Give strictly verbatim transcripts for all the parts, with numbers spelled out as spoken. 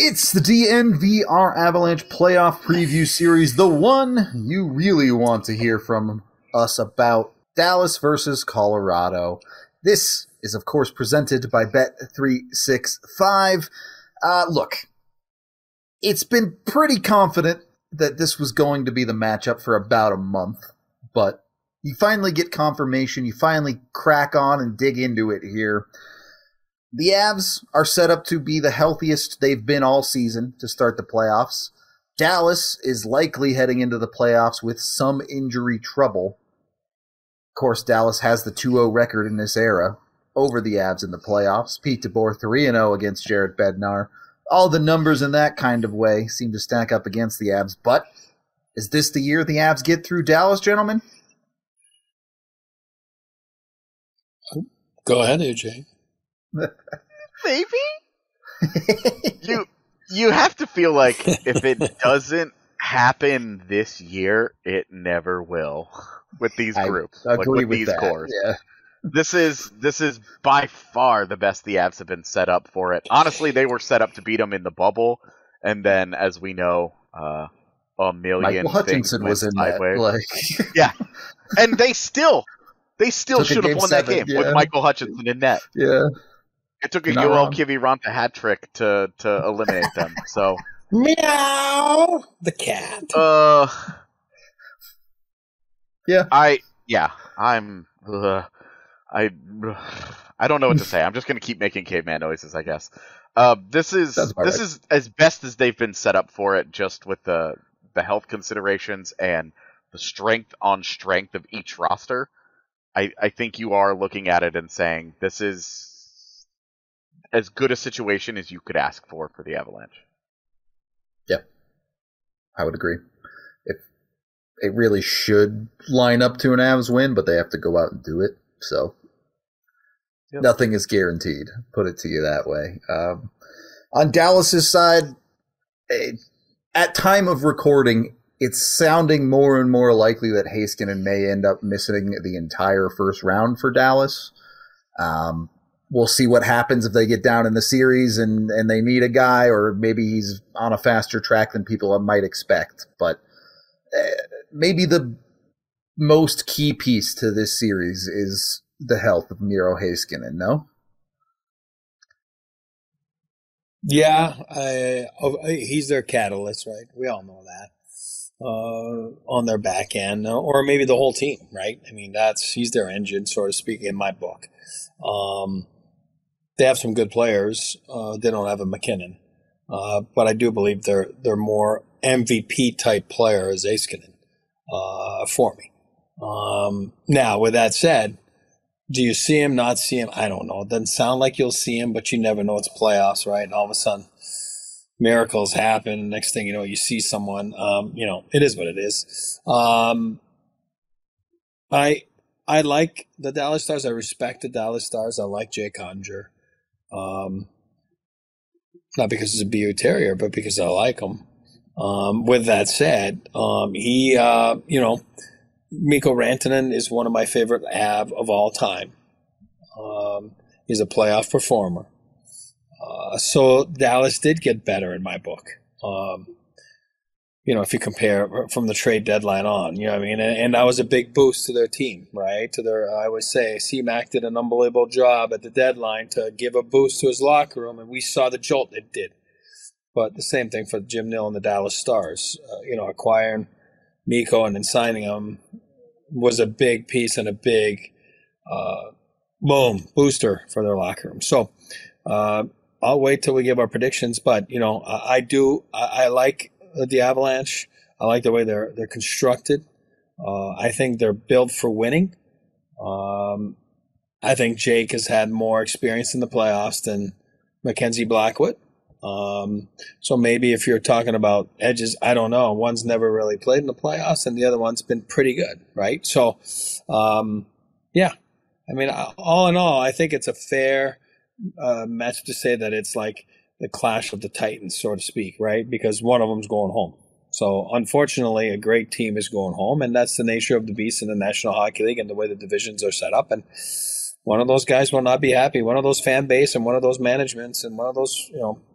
It's the D N V R Avalanche playoff preview series, the one you really want to hear from us about. Dallas versus Colorado. This is, of course, presented by Bet three sixty-five. Uh, look, it's been pretty confident that this was going to be the matchup for about a month, but you finally get confirmation, you finally crack on and dig into it here. The Avs are set up to be the healthiest they've been all season to start the playoffs. Dallas is likely heading into the playoffs with some injury trouble. Of course, Dallas has the two oh record in this era over the Avs in the playoffs. Pete DeBoer three and oh against Jared Bednar. All the numbers in that kind of way seem to stack up against the Avs. But is this the year the Avs get through Dallas, gentlemen? Go ahead, A J. Maybe? you you have to feel like if it doesn't happen this year, it never will with these groups, I like agree with, with these that, cores. yeah. This is this is by far the best the Avs have been set up for it. Honestly, they were set up to beat them in the bubble, and then, as we know, uh, a million Michael things Hutchinson went was in sideways. that. Like, yeah, and they still they still Took a should have game won seven, that game yeah. with Michael Hutchinson in net. yeah. It took a You're not Yoel wrong. Kiviranta hat trick to to eliminate them. So, Meow! The cat. uh, Yeah. I yeah, I'm uh, I I don't know what to say. I'm just gonna keep making caveman noises, I guess. Uh, this is Sounds about this right. is as best as they've been set up for it, just with the the health considerations and the strength on strength of each roster. I I think you are looking at it and saying this is as good a situation as you could ask for for the Avalanche. Yeah, I would agree. If it really should line up to an Avs win, but they have to go out and do it. So Yep. nothing is guaranteed. Put it to you that way. Um, on Dallas's side, eh, at time of recording, it's sounding more and more likely that Heiskanen may end up missing the entire first round for Dallas. Um, We'll see what happens if they get down in the series and, and they need a guy, or maybe he's on a faster track than people might expect. But uh, maybe the most key piece to this series is the health of Miro Heiskanen, no? Yeah, I, oh, he's their catalyst, right? We all know that. Uh, on their back end, or maybe the whole team, right? I mean, that's he's their engine, so to speak, in my book. Um, They have some good players. Uh, they don't have a McKinnon, uh, but I do believe they're they're more M V P type player as Heiskanen uh, for me. Um, now, with that said, do you see him? Not see him? I don't know. It doesn't sound like you'll see him, but you never know. It's playoffs, right? And all of a sudden, miracles happen. Next thing you know, you see someone. Um, you know, it is what it is. Um, I I like the Dallas Stars. I respect the Dallas Stars. I like Jay Conger. Um, not because he's a B U Terrier, but because I like him. Um, with that said, um, he, uh, you know, Mikko Rantanen is one of my favorite Av of all time. Um, he's a playoff performer. Uh, so Dallas did get better in my book. Um, you know, if you compare from the trade deadline on, you know what I mean? And, and that was a big boost to their team, right? To their, I would say, C-Mac did an unbelievable job at the deadline to give a boost to his locker room, and we saw the jolt it did. But the same thing for Jim Nill and the Dallas Stars. Uh, you know, acquiring Mikko and then signing him was a big piece and a big, uh, boom, booster for their locker room. So uh, I'll wait till we give our predictions, but, you know, I, I do, I, I like the Avalanche. I like the way they're they're constructed. Uh, I think they're built for winning. Um, I think Jake has had more experience in the playoffs than Mackenzie Blackwood. Um, so maybe if you're talking about edges, I don't know. One's never really played in the playoffs, and the other one's been pretty good, right? So, um, yeah. I mean, all in all, I think it's a fair uh, match to say that it's like the clash of the Titans, so to speak, right? Because one of them's going home. So, unfortunately, a great team is going home, and that's the nature of the beast in the National Hockey League and the way the divisions are set up. And one of those guys will not be happy. One of those fan base and one of those managements and one of those, you know,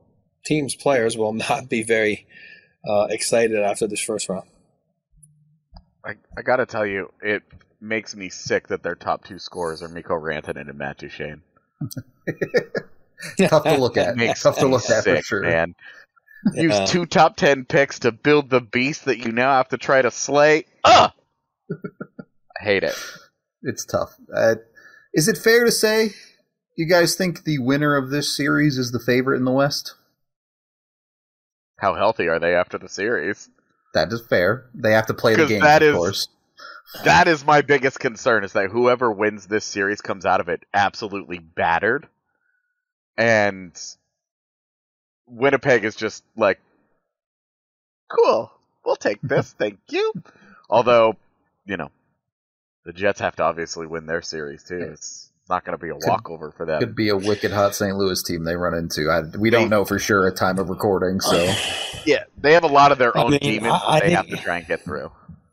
team's players will not be very uh, excited after this first round. I, I got to tell you, it makes me sick that their top two scorers are Mikko Rantanen and Matt Duchene. Tough to look at. Makes Tough to me look at sick, for sure. Man. Use Yeah. two top ten picks to build the beast that you now have to try to slay. Ugh! I hate it. It's tough. Uh, is it fair to say you guys think the winner of this series is the favorite in the West? How healthy are they after the series? That is fair. They have to play the 'Cause game, that of is- course. That is my biggest concern, is that whoever wins this series comes out of it absolutely battered. And Winnipeg is just like, cool, we'll take this, thank you. Although, you know, the Jets have to obviously win their series too. It's not going to be a walkover for them. Could be a wicked hot Saint Louis team they run into. I, we don't know for sure at time of recording, so Yeah, they have a lot of their I own mean, demons I- I that they have think- to try and get through.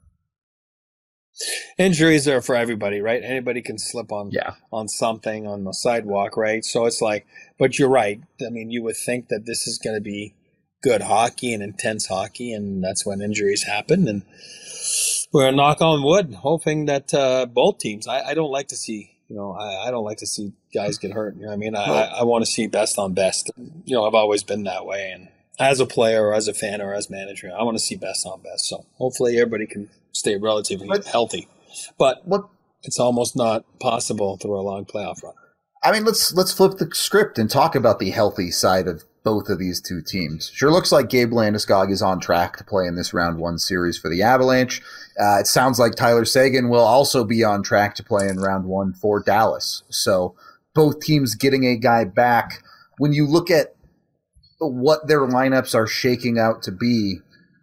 Injuries are for everybody, right? Anybody can slip on yeah. on something on the sidewalk, right? So it's like, but you're right. I mean, you would think that this is going to be good hockey and intense hockey, and that's when injuries happen. And we're knock on wood, hoping that uh, both teams. I, I don't like to see, you know, I, I don't like to see guys get hurt. You know what I mean? I, I, I want to see best on best. You know, I've always been that way, and as a player or as a fan or as manager, I want to see best on best. So hopefully everybody can stay relatively But- healthy. But What it's almost not possible through a long playoff run. I mean, let's let's flip the script and talk about the healthy side of both of these two teams. Sure looks like Gabe Landeskog is on track to play in this round one series for the Avalanche. Uh, it sounds like Tyler Seguin will also be on track to play in round one for Dallas. So both teams getting a guy back. When you look at what their lineups are shaking out to be,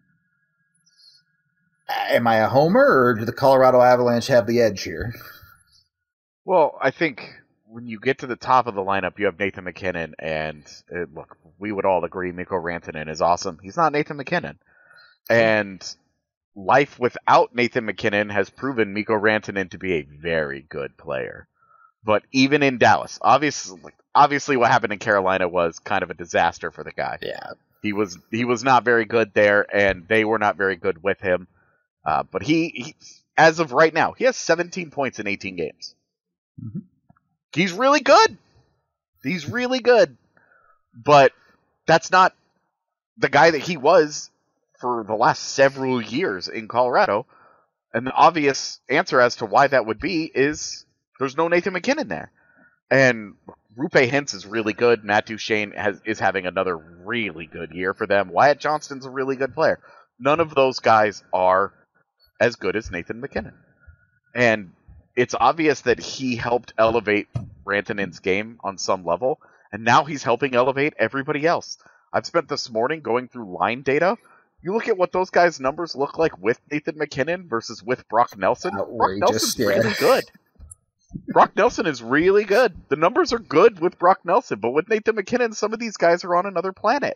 am I a homer, or do the Colorado Avalanche have the edge here? Well, I think when you get to the top of the lineup, you have Nathan McKinnon, and uh, look, we would all agree Mikko Rantanen is awesome. He's not Nathan McKinnon. And life without Nathan McKinnon has proven Mikko Rantanen to be a very good player. But even in Dallas, obviously, obviously what happened in Carolina was kind of a disaster for the guy. Yeah. He was he was not very good there, and they were not very good with him. Uh, but he, he, as of right now, he has seventeen points in eighteen games. Mm-hmm. He's really good. He's really good. But that's not the guy that he was for the last several years in Colorado. And the obvious answer as to why that would be is there's no Nathan McKinnon there. And Rupe Hintz is really good. Matt Duchene has, is having another really good year for them. Wyatt Johnston's a really good player. None of those guys are as good as Nathan McKinnon. And it's obvious that he helped elevate Rantanen's game on some level, and now he's helping elevate everybody else. I've spent this morning going through line data. You look at what those guys' numbers look like with Nathan McKinnon versus with Brock Nelson. Brock Outrageous, Nelson's yeah. really good. Brock Nelson is really good. The numbers are good with Brock Nelson, but with Nathan McKinnon, some of these guys are on another planet.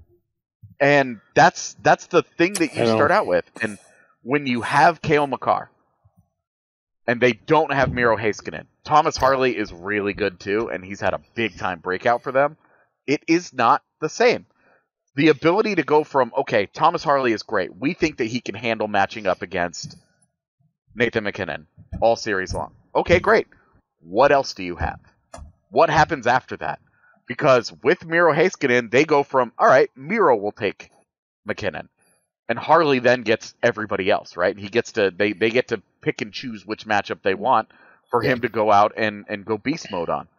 And that's that's the thing that you I know. start out with. And when you have Cale Makar, and they don't have Miro Heiskanen, Thomas Harley is really good too, and he's had a big-time breakout for them. It is not the same. The ability to go from, okay, Thomas Harley is great. We think that he can handle matching up against Nathan McKinnon all series long. Okay, great. What else do you have? What happens after that? Because with Miro Heiskanen, they go from, all right, Miro will take McKinnon. And Harley then gets everybody else, right? He gets to they, they get to pick and choose which matchup they want for him to go out and, and go beast mode on.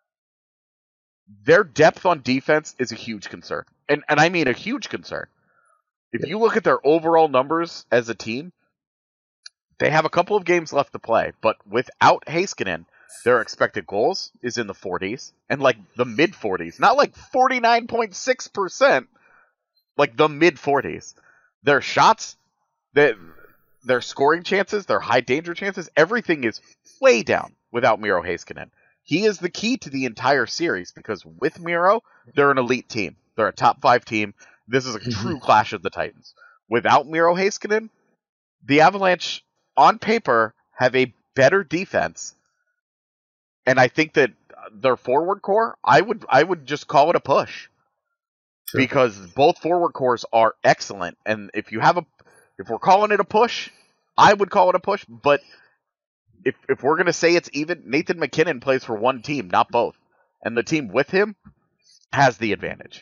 Their depth on defense is a huge concern. And and I mean a huge concern. If you look at their overall numbers as a team, they have a couple of games left to play, but without Heiskanen, their expected goals is in the forties and like the mid forties, not like forty-nine point six percent, like the mid forties. Their shots, their, their scoring chances, their high danger chances, everything is way down without Miro Heiskanen. He is the key to the entire series because with Miro, they're an elite team. They're a top five team. This is a true clash of the Titans. Without Miro Heiskanen, the Avalanche, on paper, have a better defense. And I think that their forward core, I would I would just call it a push. Sure. because both forward cores are excellent. And if you have a, if we're calling it a push, I would call it a push. But if if we're gonna say it's even, Nathan MacKinnon plays for one team, not both, and the team with him has the advantage.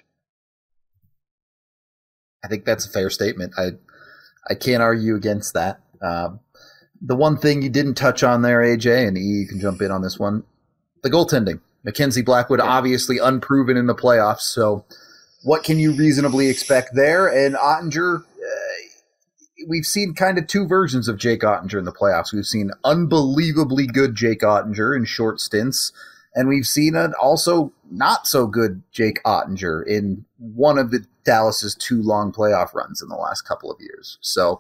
I think that's a fair statement. I I can't argue against that. Um, the one thing you didn't touch on there, A J, and E, you can jump in on this one, the goaltending. Mackenzie Blackwood, yeah. obviously unproven in the playoffs, so what can you reasonably expect there? And Ottinger, uh, we've seen kind of two versions of Jake Ottinger in the playoffs. We've seen unbelievably good Jake Ottinger in short stints, and we've seen an also not so good Jake Ottinger in one of the Dallas's two long playoff runs in the last couple of years. So,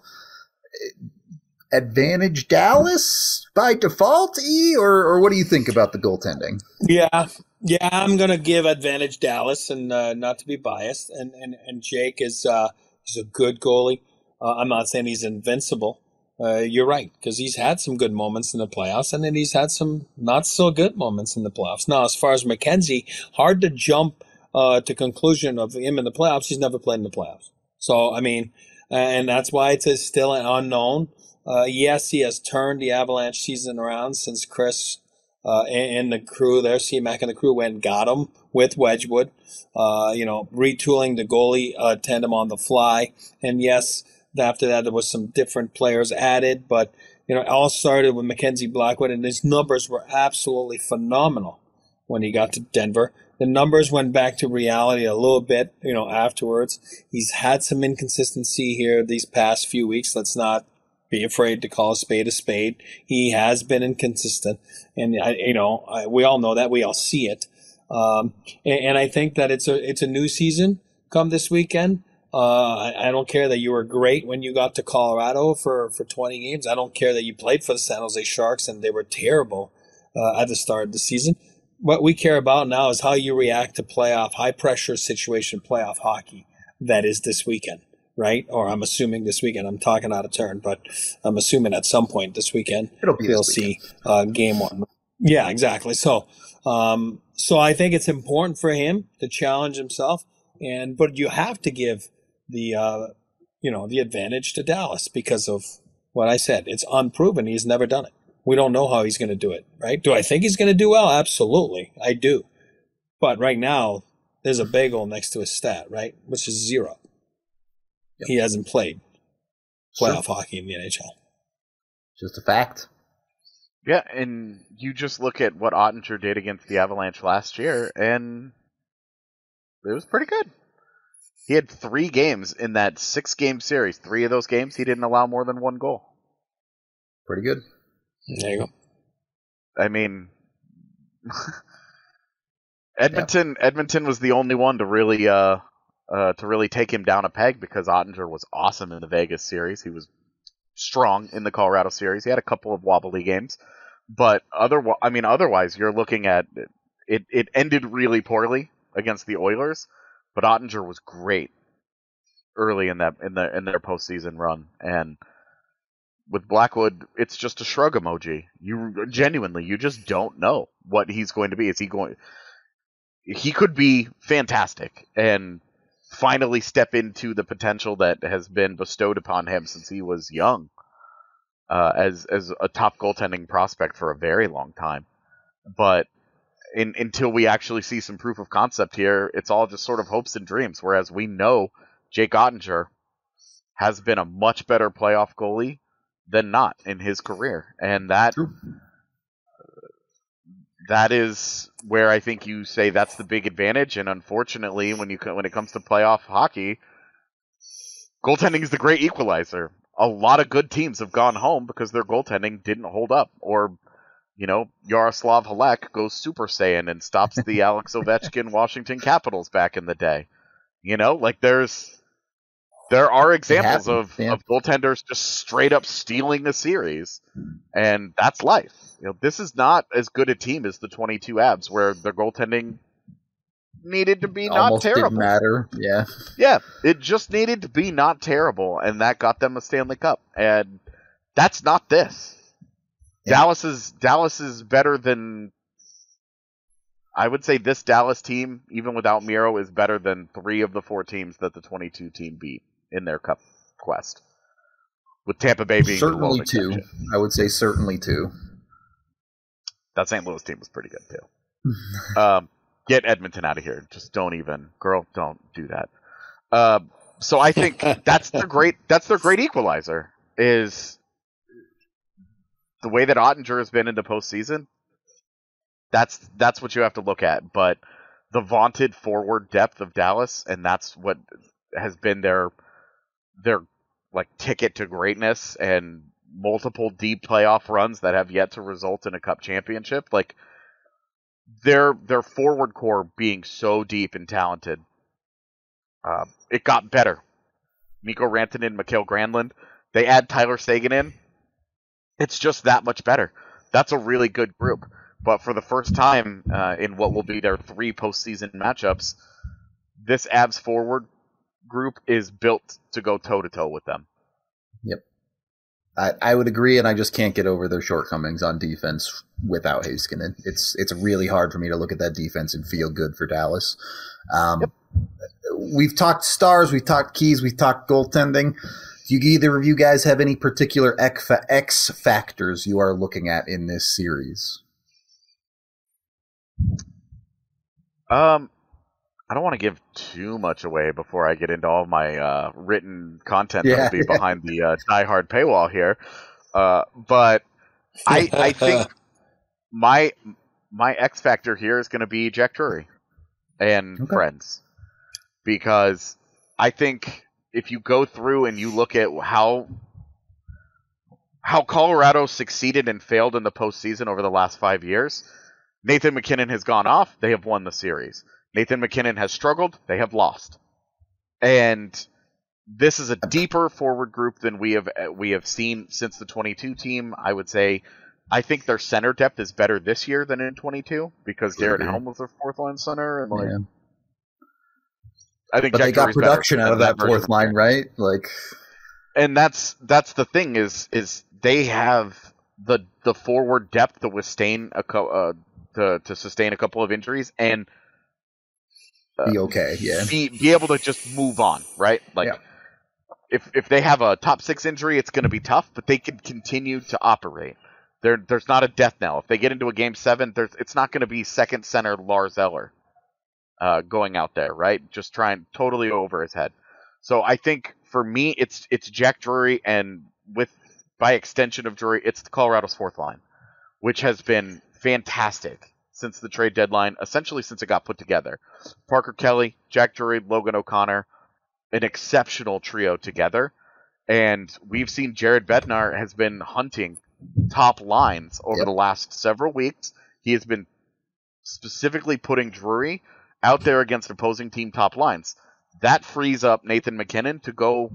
advantage Dallas by default, E, or, or what do you think about the goaltending? Yeah, yeah, I'm gonna give advantage Dallas, and uh, not to be biased. And and, and Jake is uh, he's a good goalie. Uh, I'm not saying he's invincible. Uh, you're right, because he's had some good moments in the playoffs, and then he's had some not so good moments in the playoffs. Now, as far as McKenzie, hard to jump uh, to conclusion of him in the playoffs. He's never played in the playoffs, so I mean, and that's why it's a, still an unknown. Uh, yes, he has turned the Avalanche season around since Chris uh, and, and the crew there, C Mac and the crew went and got him with Wedgwood. Uh, you know, retooling the goalie uh, tandem on the fly, and yes. After that, there was some different players added, but you know, it all started with Mackenzie Blackwood, and his numbers were absolutely phenomenal when he got to Denver. The numbers went back to reality a little bit, you know, afterwards. He's had some inconsistency here these past few weeks. Let's not be afraid to call a spade a spade. He has been inconsistent, and I, you know, I, we all know that. We all see it, um, and, and I think that it's a it's a new season come this weekend. Uh, I, I don't care that you were great when you got to Colorado for, for twenty games. I don't care that you played for the San Jose Sharks and they were terrible uh, at the start of the season. What we care about now is how you react to playoff, high-pressure situation playoff hockey that is this weekend, right? Or I'm assuming this weekend. I'm talking out of turn, but I'm assuming at some point this weekend It'll be we'll this see uh, game one. Yeah, exactly. So, um, so I think it's important for him to challenge himself, and but you have to give the uh, you know the advantage to Dallas because of what I said. It's unproven. He's never done it. We don't know how he's going to do it, right? Do I think he's going to do well? Absolutely, I do. But right now, there's a bagel next to his stat, right, which is zero. Yep. He hasn't played playoff sure. hockey in the N H L. Just a fact. Yeah, and you just look at what Ottinger did against the Avalanche last year, and it was pretty good. He had three games in that six-game series. Three of those games, he didn't allow more than one goal. Pretty good. There you go. I mean, Edmonton. Yeah. Edmonton was the only one to really, uh, uh, to really take him down a peg because Ottinger was awesome in the Vegas series. He was strong in the Colorado series. He had a couple of wobbly games, but other. I mean, otherwise, you're looking at it. It ended really poorly against the Oilers. But Ottinger was great early in that in the in their postseason run, and with Blackwood, it's just a shrug emoji. You genuinely, you just don't know what he's going to be. Is he going? He could be fantastic and finally step into the potential that has been bestowed upon him since he was young, uh, as as a top goaltending prospect for a very long time, but. In, until we actually see some proof of concept here, it's all just sort of hopes and dreams. Whereas we know Jake Ottinger has been a much better playoff goalie than not in his career, and that uh, that is where I think you say that's the big advantage. And unfortunately, when you when it comes to playoff hockey, goaltending is the great equalizer. A lot of good teams have gone home because their goaltending didn't hold up, or you know, Yaroslav Halek goes Super Saiyan and stops the Alex Ovechkin Washington Capitals back in the day. You know, like there's there are examples of, yeah. of goaltenders just straight up stealing a series, and that's life. You know, this is not as good a team as the twenty-two Abs, where their goaltending needed to be not Almost terrible. Didn't matter, yeah, yeah, it just needed to be not terrible, and that got them a Stanley Cup, and that's not this. Yeah. Dallas is Dallas is better than I would say this Dallas team, even without Miro, is better than three of the four teams that the twenty-two team beat in their Cup quest. With Tampa Bay being certainly the two. exception. I would say certainly two. That Saint Louis team was pretty good too. um, get Edmonton out of here. Just don't even, girl, don't do that. Uh, so I think that's their great. That's their great equalizer. Is the way that Ottinger has been in the postseason. That's that's what you have to look at. But the vaunted forward depth of Dallas, and that's what has been their their like ticket to greatness and multiple deep playoff runs that have yet to result in a cup championship. Like their their forward core being so deep and talented, uh, it got better. Mikko Rantanen, Mikael Granlund, they add Tyler Seguin in. It's just that much better. That's a really good group. But for the first time uh, in what will be their three postseason matchups, this Avs forward group is built to go toe-to-toe with them. Yep. I, I would agree, and I just can't get over their shortcomings on defense without Heiskanen. It's it's really hard for me to look at that defense and feel good for Dallas. Um, yep. We've talked stars, we've talked keys, we've talked goaltending. Do you, either of you guys have any particular X factors you are looking at in this series? Um, I don't want to give too much away before I get into all my uh, written content yeah. that will be behind the uh, diehard paywall here. Uh, but I I think my my X factor here is going to be Jack Drury and okay. friends, because I think if you go through and you look at how how Colorado succeeded and failed in the postseason over the last five years. Nathan MacKinnon has gone off. They have won the series. Nathan MacKinnon has struggled. They have lost. And this is a deeper forward group than we have we have seen since the twenty-two team. I would say I think their center depth is better this year than in twenty-two because Darren mm-hmm. Helm was their fourth line center. And like, yeah. I think but Jack they got Drury's production out of that, that fourth line, right? Like, and that's that's the thing is is they have the the forward depth to withstand a co- uh, to to sustain a couple of injuries and uh, be okay, yeah, be be able to just move on, right? Like, yeah. if if they have a top six injury, it's going to be tough, but they can continue to operate. There there's not a death knell. If they get into a game seven, there's it's not going to be second center Lars Eller uh, going out there, right? Just trying totally over his head. So I think for me, it's it's Jack Drury, and with by extension of Drury, it's the Colorado's fourth line, which has been fantastic since the trade deadline, essentially since it got put together. Parker Kelly, Jack Drury, Logan O'Connor, an exceptional trio together. And we've seen Jared Bednar has been hunting top lines over yep. the last several weeks. He has been specifically putting Drury out there against opposing team top lines. That frees up Nathan MacKinnon to go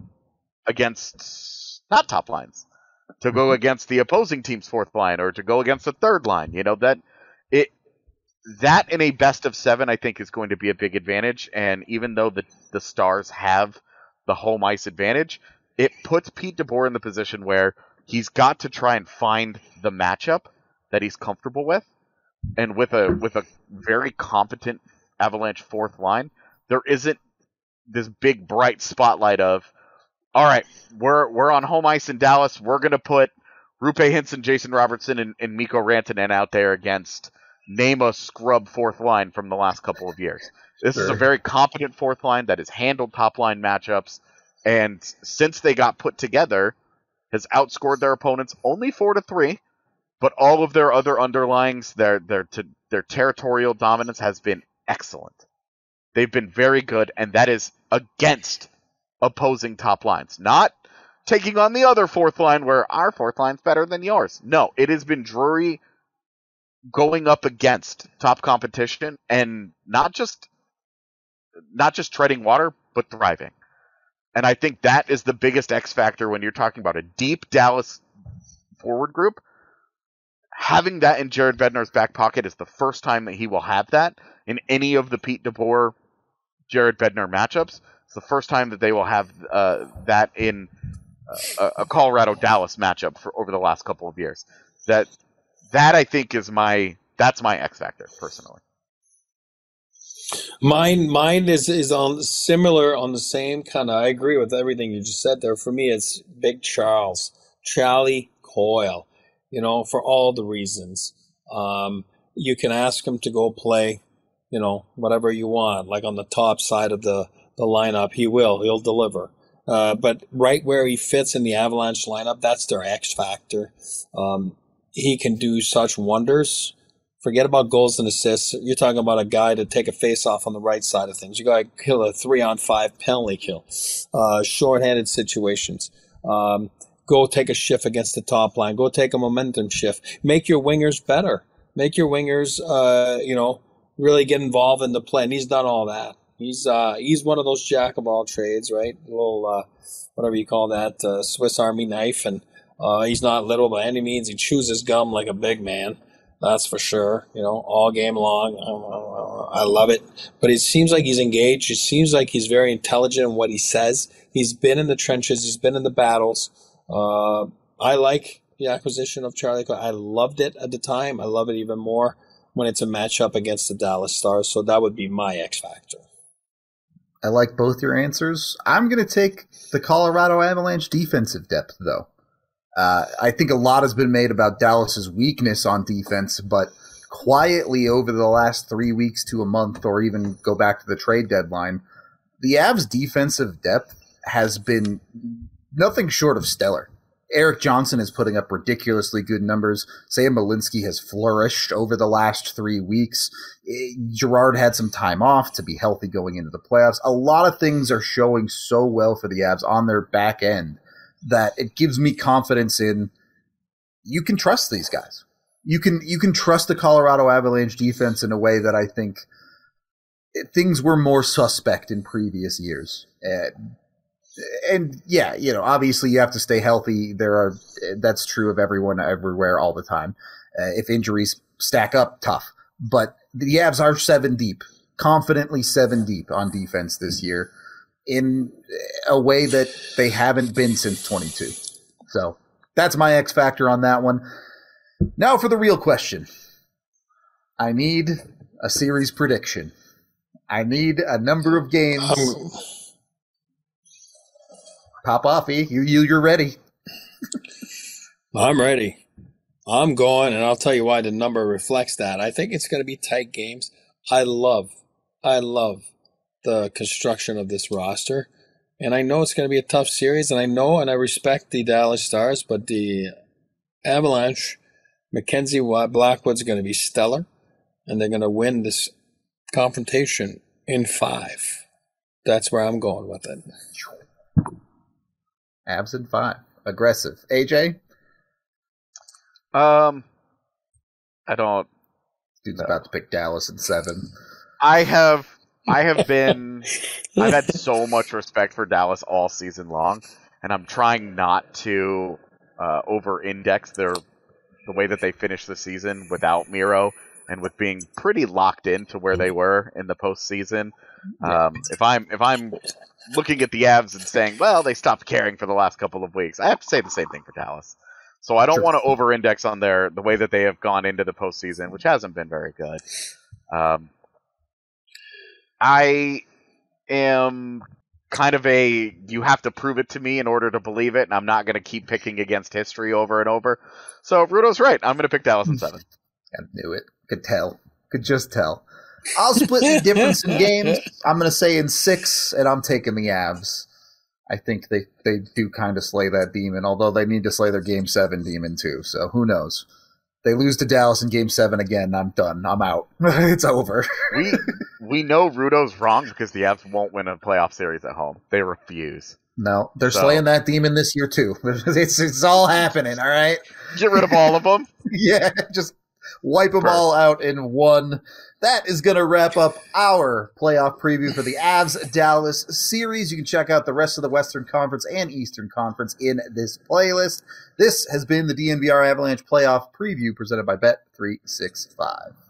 against not top lines, to go against the opposing team's fourth line or to go against the third line. You know, that it that in a best of seven, I think, is going to be a big advantage. And even though the the Stars have the home ice advantage, it puts Pete DeBoer in the position where he's got to try and find the matchup that he's comfortable with. And with a with a very competent Avalanche fourth line, there isn't this big bright spotlight of, all right, we're we're on home ice in Dallas. We're going to put Rupe Hinson, Jason Robertson, and, and Mikko Rantanen out there against name a scrub fourth line from the last couple of years. This sure. is a very competent fourth line that has handled top line matchups, and since they got put together, has outscored their opponents only four to three. But all of their other underlyings, their their to, their territorial dominance has been excellent. They've been very good, and that is against opposing top lines. Not taking on the other fourth line where our fourth line's better than yours. No, it has been Drury going up against top competition and not just not just treading water, but thriving. And I think that is the biggest X factor when you're talking about a deep Dallas forward group. Having that in Jared Bednar's back pocket is the first time that he will have that in any of the Pete DeBoer Jared Bednar matchups. It's the first time that they will have uh, that in uh, a Colorado-Dallas matchup for over the last couple of years. That that I think is my that's my X factor personally. Mine, mine is is on similar on the same kind of. I agree with everything you just said there. For me, it's Big Charles, Charlie Coyle. You know, for all the reasons. Um, you can ask him to go play, you know, whatever you want, like on the top side of the the lineup. He will. He'll deliver. Uh, but right where he fits in the Avalanche lineup, that's their X factor. Um, he can do such wonders. Forget about goals and assists. You're talking about a guy to take a face-off on the right side of things. You got to kill a three-on-five penalty kill. Uh, short-handed situations. Um, go take a shift against the top line. Go take a momentum shift. Make your wingers better. Make your wingers, uh, you know, really get involved in the play. And he's done all that. He's uh, he's one of those jack of all trades, right? A little, uh, whatever you call that, uh, Swiss Army knife. And uh, he's not little by any means. He chews his gum like a big man. That's for sure. You know, all game long. I love it. But it seems like he's engaged. It seems like he's very intelligent in what he says. He's been in the trenches. He's been in the battles. Uh, I like the acquisition of Charlie Coyle. I loved it at the time. I love it even more when it's a matchup against the Dallas Stars. So that would be my X factor. I like both your answers. I'm going to take the Colorado Avalanche defensive depth, though. Uh, I think a lot has been made about Dallas's weakness on defense, but quietly over the last three weeks to a month, or even go back to the trade deadline, the Avs' defensive depth has been nothing short of stellar. Erik Johnson is putting up ridiculously good numbers. Sam Malinsky has flourished over the last three weeks. Gerard had some time off to be healthy going into the playoffs. A lot of things are showing so well for the Avs on their back end that it gives me confidence in you can trust these guys. You can you can trust the Colorado Avalanche defense in a way that I think it, things were more suspect in previous years. And, and yeah, you know, obviously you have to stay healthy. There are that's true of everyone everywhere all the time. Uh, if injuries stack up, tough. But the Avs are seven deep, confidently seven deep on defense this year, in a way that they haven't been since twenty-two. So that's my X factor on that one. Now for the real question. I need a series prediction. I need a number of games. Um, Pop off, E. You, you, you're ready. I'm ready. I'm going, and I'll tell you why the number reflects that. I think it's going to be tight games. I love, I love the construction of this roster. And I know it's going to be a tough series, and I know and I respect the Dallas Stars, but the Avalanche, Mackenzie Blackwood's going to be stellar, and they're going to win this confrontation in five. That's where I'm going with it. Avs in five. Aggressive. A J? Um, I don't... Dude's no. about to pick Dallas in seven. I have... I have been, I've had so much respect for Dallas all season long, and I'm trying not to uh, over-index their the way that they finished the season without Miro and with being pretty locked into where they were in the postseason. Um, if I'm if I'm looking at the Avs and saying, well, they stopped caring for the last couple of weeks, I have to say the same thing for Dallas. So I don't sure. want to over-index on their the way that they have gone into the postseason, which hasn't been very good. Um, I am kind of a, you have to prove it to me in order to believe it, and I'm not going to keep picking against history over and over. So Rudo's right. I'm going to pick Dallas in seven. I knew it. Could tell. Could just tell. I'll split the difference in games. I'm going to say in six, and I'm taking the Avs. I think they, they do kind of slay that demon, although they need to slay their Game seven demon too, so who knows. They lose to Dallas in Game seven again, I'm done. I'm out. It's over. we we know Rudo's wrong because the Avs won't win a playoff series at home. They refuse. No, they're so. slaying that demon this year too. It's it's all happening, all right? Get rid of all of them? Yeah, just wipe them Perfect. all out in one. That is going to wrap up our playoff preview for the Avs-Dallas series. You can check out the rest of the Western Conference and Eastern Conference in this playlist. This has been the D N V R Avalanche playoff preview presented by Bet three sixty-five.